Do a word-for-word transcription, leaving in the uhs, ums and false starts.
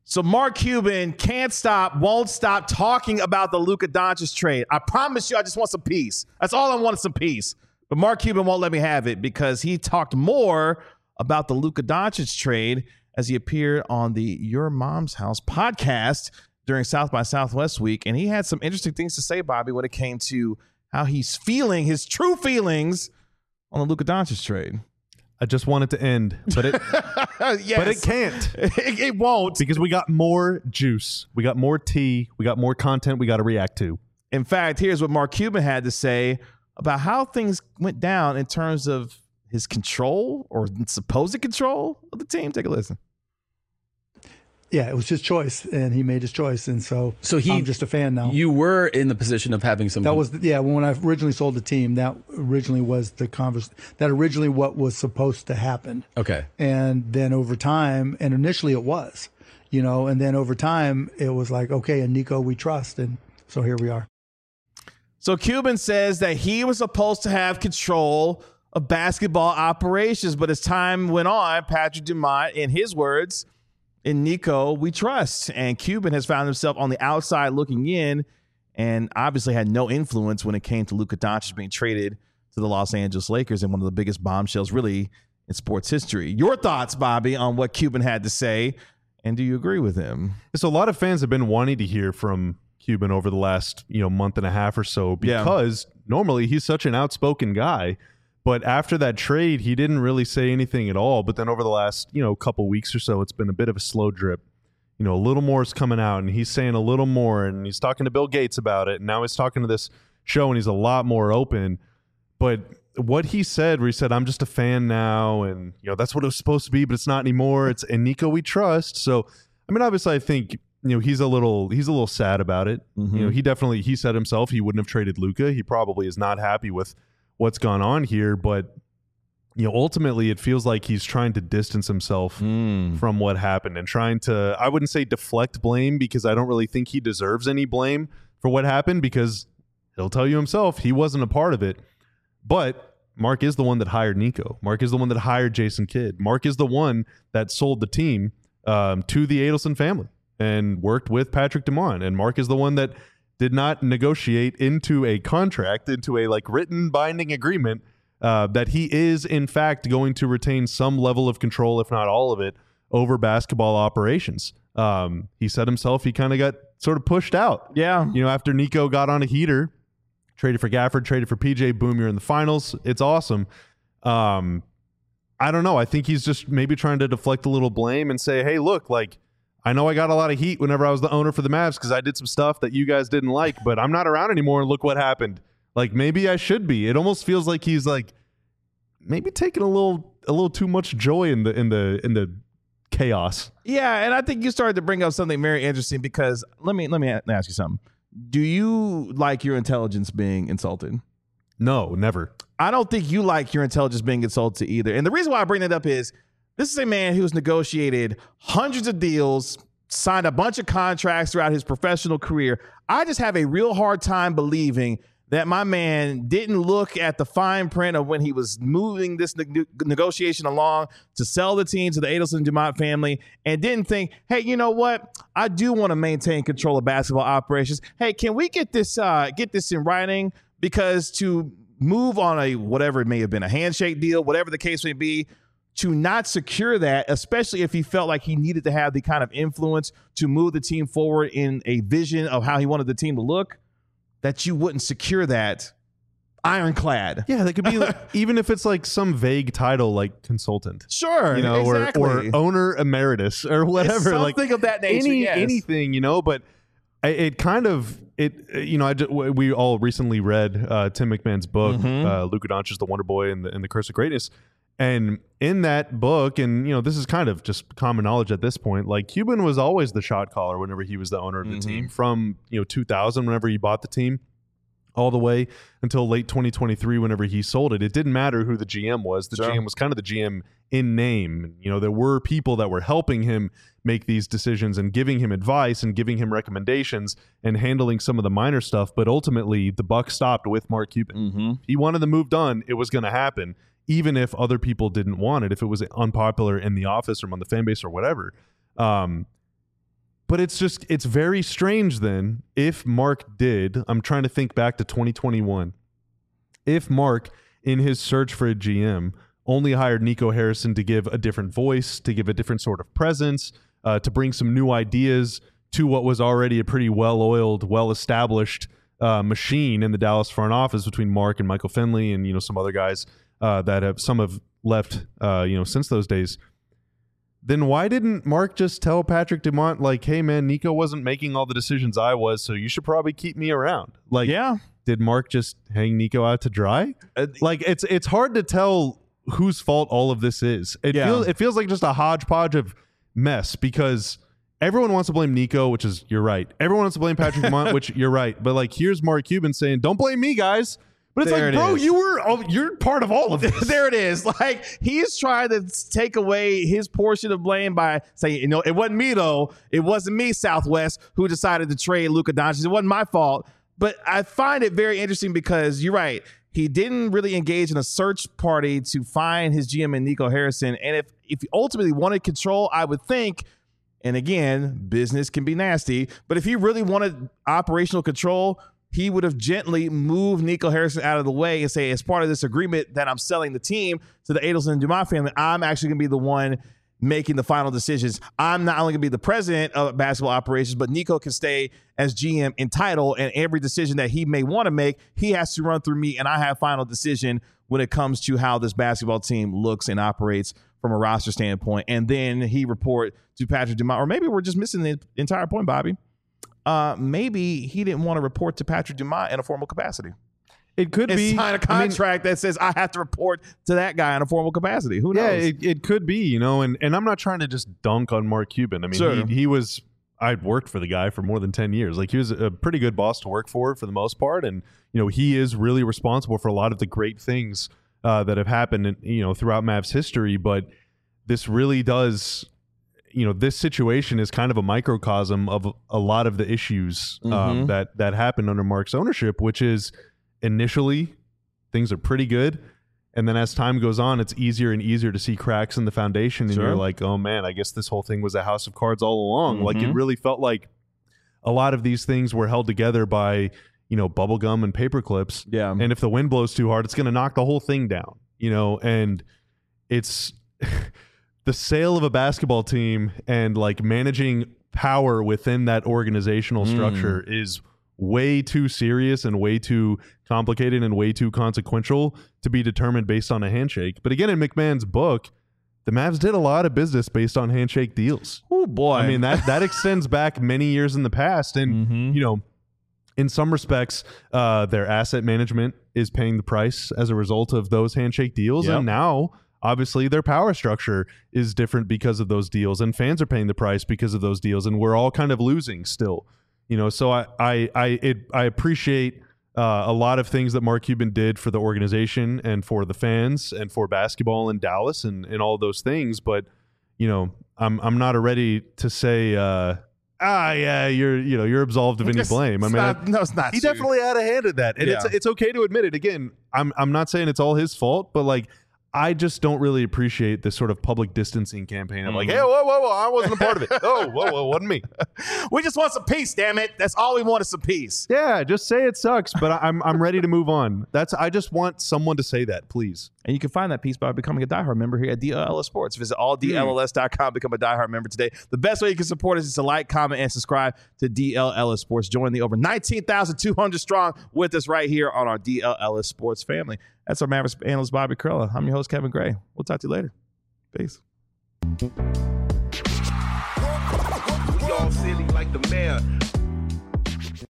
So Mark Cuban can't stop, won't stop talking about the Luka Doncic trade. I promise you, I just want some peace. That's all I want is some peace. But Mark Cuban won't let me have it because he talked more about the Luka Doncic trade as he appeared on the Your Mom's House podcast during South by Southwest week. And he had some interesting things to say, Bobby, when it came to how he's feeling, his true feelings on the Luka Doncic trade. I just want it to end, but it yes. but it can't. It, it won't. Because we got more juice. We got more tea. We got more content we got to react to. In fact, here's what Mark Cuban had to say about how things went down in terms of his control or supposed control of the team. Take a listen. Yeah, it was his choice, and he made his choice, and so, so he, I'm just a fan now. You were in the position of having some. That was yeah. When I originally sold the team, that originally was the converse. That originally what was supposed to happen. Okay. And then over time, and initially it was, you know, and then over time it was like, okay, and Nico we trust, and so here we are. So Cuban says that he was supposed to have control of basketball operations, but as time went on, Patrick Dumont, in his words, in Nico, we trust. And Cuban has found himself on the outside looking in and obviously had no influence when it came to Luka Doncic being traded to the Los Angeles Lakers in one of the biggest bombshells really in sports history. Your thoughts, Bobby, on what Cuban had to say, and do you agree with him? So a lot of fans have been wanting to hear from Cuban over the last, you know, month and a half or so because yeah. normally he's such an outspoken guy. But after that trade, he didn't really say anything at all. But then over the last, you know, couple weeks or so, it's been a bit of a slow drip. You know, a little more is coming out, and he's saying a little more, and he's talking to Bill Gates about it. And now he's talking to this show, and he's a lot more open. But what he said, where he said, I'm just a fan now, and, you know, that's what it was supposed to be, but it's not anymore. It's and Nico we trust. So, I mean, obviously, I think, you know, he's a little he's a little sad about it. Mm-hmm. You know, he definitely, he said himself he wouldn't have traded Luka. He probably is not happy with what's gone on here, but you know, ultimately it feels like he's trying to distance himself mm. from what happened and trying to, I wouldn't say deflect blame because I don't really think he deserves any blame for what happened because he'll tell you himself he wasn't a part of it. But Mark is the one that hired Nico. Mark is the one that hired Jason Kidd. Mark is the one that sold the team um, to the Adelson family and worked with Patrick Dumont. And Mark is the one that did not negotiate into a contract, into a like written binding agreement uh, that he is in fact going to retain some level of control, if not all of it, over basketball operations. Um, he said himself he kind of got sort of pushed out. Yeah. You know, after Nico got on a heater, traded for Gafford, traded for P J, boom, you're in the finals. It's awesome. Um, I don't know. I think he's just maybe trying to deflect a little blame and say, hey, look, like, I know I got a lot of heat whenever I was the owner for the Mavs because I did some stuff that you guys didn't like, but I'm not around anymore, and look what happened. Like, maybe I should be. It almost feels like he's like maybe taking a little a little too much joy in the in the in the chaos. Yeah, and I think you started to bring up something very interesting because let me let me ask you something. Do you like your intelligence being insulted? No, never. I don't think you like your intelligence being insulted either. And the reason why I bring that up is this is a man who's negotiated hundreds of deals, signed a bunch of contracts throughout his professional career. I just have a real hard time believing that my man didn't look at the fine print of when he was moving this ne- negotiation along to sell the team to the Adelson Dumont family and didn't think, hey, you know what? I do want to maintain control of basketball operations. Hey, can we get this uh, get this in writing? Because to move on a whatever it may have been, a handshake deal, whatever the case may be, to not secure that, especially if he felt like he needed to have the kind of influence to move the team forward in a vision of how he wanted the team to look, that you wouldn't secure that ironclad. Yeah, that could be like, even if it's like some vague title like consultant. Sure, you know, exactly. or, or owner emeritus or whatever. It's something like of that nature, any, yes. anything, you know, but it, it kind of, it you know, I just, we all recently read uh, Tim McMahon's book, mm-hmm. uh, Luka Doncic, The Wonder Boy and the, and the Curse of Greatness. And in that book, and, you know, this is kind of just common knowledge at this point, like Cuban was always the shot caller whenever he was the owner of the mm-hmm. team from, you know, two thousand, whenever he bought the team, all the way until late twenty twenty-three, whenever he sold it. It didn't matter who the G M was. The sure. G M was kind of the G M in name. You know, there were people that were helping him make these decisions and giving him advice and giving him recommendations and handling some of the minor stuff. But ultimately, the buck stopped with Mark Cuban. Mm-hmm. He wanted the move done. It was going to happen, even if other people didn't want it, if it was unpopular in the office or among the fan base or whatever. Um, But it's just, it's very strange then if Mark did, I'm trying to think back to twenty twenty-one, if Mark in his search for a G M only hired Nico Harrison to give a different voice, to give a different sort of presence, uh, to bring some new ideas to what was already a pretty well-oiled, well-established uh, machine in the Dallas front office between Mark and Michael Finley and, you know, some other guys uh, that have, some have left, uh, you know, since those days. Then why didn't Mark just tell Patrick Dumont, like, hey, man, Nico wasn't making all the decisions I was, so you should probably keep me around? Like, yeah. Did Mark just hang Nico out to dry? Uh, like, it's it's hard to tell whose fault all of this is. It yeah. feels it feels like just a hodgepodge of mess because everyone wants to blame Nico, which is, you're right. Everyone wants to blame Patrick Dumont, which you're right. But, like, here's Mark Cuban saying, don't blame me, guys. But it's there like, it bro, is. you were, oh, you're part of all of this. There it is. Like, he's trying to take away his portion of blame by saying, you know, it wasn't me, though. It wasn't me, Southwest, who decided to trade Luka Doncic. It wasn't my fault. But I find it very interesting because you're right. He didn't really engage in a search party to find his G M in Nico Harrison. And if, if he ultimately wanted control, I would think, and again, business can be nasty, but if he really wanted operational control, he would have gently moved Nico Harrison out of the way and say, as part of this agreement that I'm selling the team to the Adelson and Dumont family, I'm actually going to be the one making the final decisions. I'm not only going to be the president of basketball operations, but Nico can stay as G M in title, and every decision that he may want to make, he has to run through me, and I have final decision when it comes to how this basketball team looks and operates from a roster standpoint. And then he report to Patrick Dumont, or maybe we're just missing the entire point, Bobby. Uh, maybe he didn't want to report to Patrick Dumont in a formal capacity. It could and be sign a contract I mean, that says I have to report to that guy in a formal capacity. Who knows? Yeah, it, it could be, you know, and, and I'm not trying to just dunk on Mark Cuban. I mean, sure. he, he was, I'd worked for the guy for more than ten years. Like, he was a pretty good boss to work for for the most part. And, you know, he is really responsible for a lot of the great things uh, that have happened, in, you know, throughout Mavs history. But this really does, you know, this situation is kind of a microcosm of a lot of the issues um, mm-hmm. that, that happened under Mark's ownership, which is, initially, things are pretty good, and then as time goes on, it's easier and easier to see cracks in the foundation, and sure. you're like, oh man, I guess this whole thing was a house of cards all along. Mm-hmm. Like, it really felt like a lot of these things were held together by, you know, bubble gum and paper clips. Yeah. And if the wind blows too hard, it's going to knock the whole thing down, you know, and it's the sale of a basketball team and like managing power within that organizational structure mm. is way too serious and way too complicated and way too consequential to be determined based on a handshake. But again, in McMahon's book, the Mavs did a lot of business based on handshake deals. Oh boy. I mean, that, that extends back many years in the past. And, mm-hmm. you know, in some respects, uh, their asset management is paying the price as a result of those handshake deals. Yep. And now, obviously, their power structure is different because of those deals, and fans are paying the price because of those deals. And we're all kind of losing still. You know, so I I I, it, I appreciate uh, a lot of things that Mark Cuban did for the organization and for the fans and for basketball in Dallas and, and all those things. But, you know, I'm I'm not ready to say, uh, ah, yeah, you're you know you're absolved of any it's, blame. I mean, not, I, no, it's not. He true. definitely had a hand in that, and yeah. it's it's okay to admit it. Again, I'm I'm not saying it's all his fault, but like, I just don't really appreciate this sort of public distancing campaign. I'm like, hey, whoa, whoa, whoa, I wasn't a part of it. Oh, whoa, whoa, wasn't me. We just want some peace, damn it. That's all we want is some peace. Yeah, just say it sucks, but I'm I'm ready to move on. That's I just want someone to say that, please. And you can find that peace by becoming a diehard member here at D L L S Sports. Visit all D L L S dot com, become a diehard member today. The best way you can support us is to like, comment, and subscribe to D L L S Sports. Join the over nineteen thousand two hundred strong with us right here on our D L L S Sports family. That's our Mavericks analyst, Bobby Karalla. I'm your host, Kevin Gray. We'll talk to you later. Peace. We all silly like the mayor.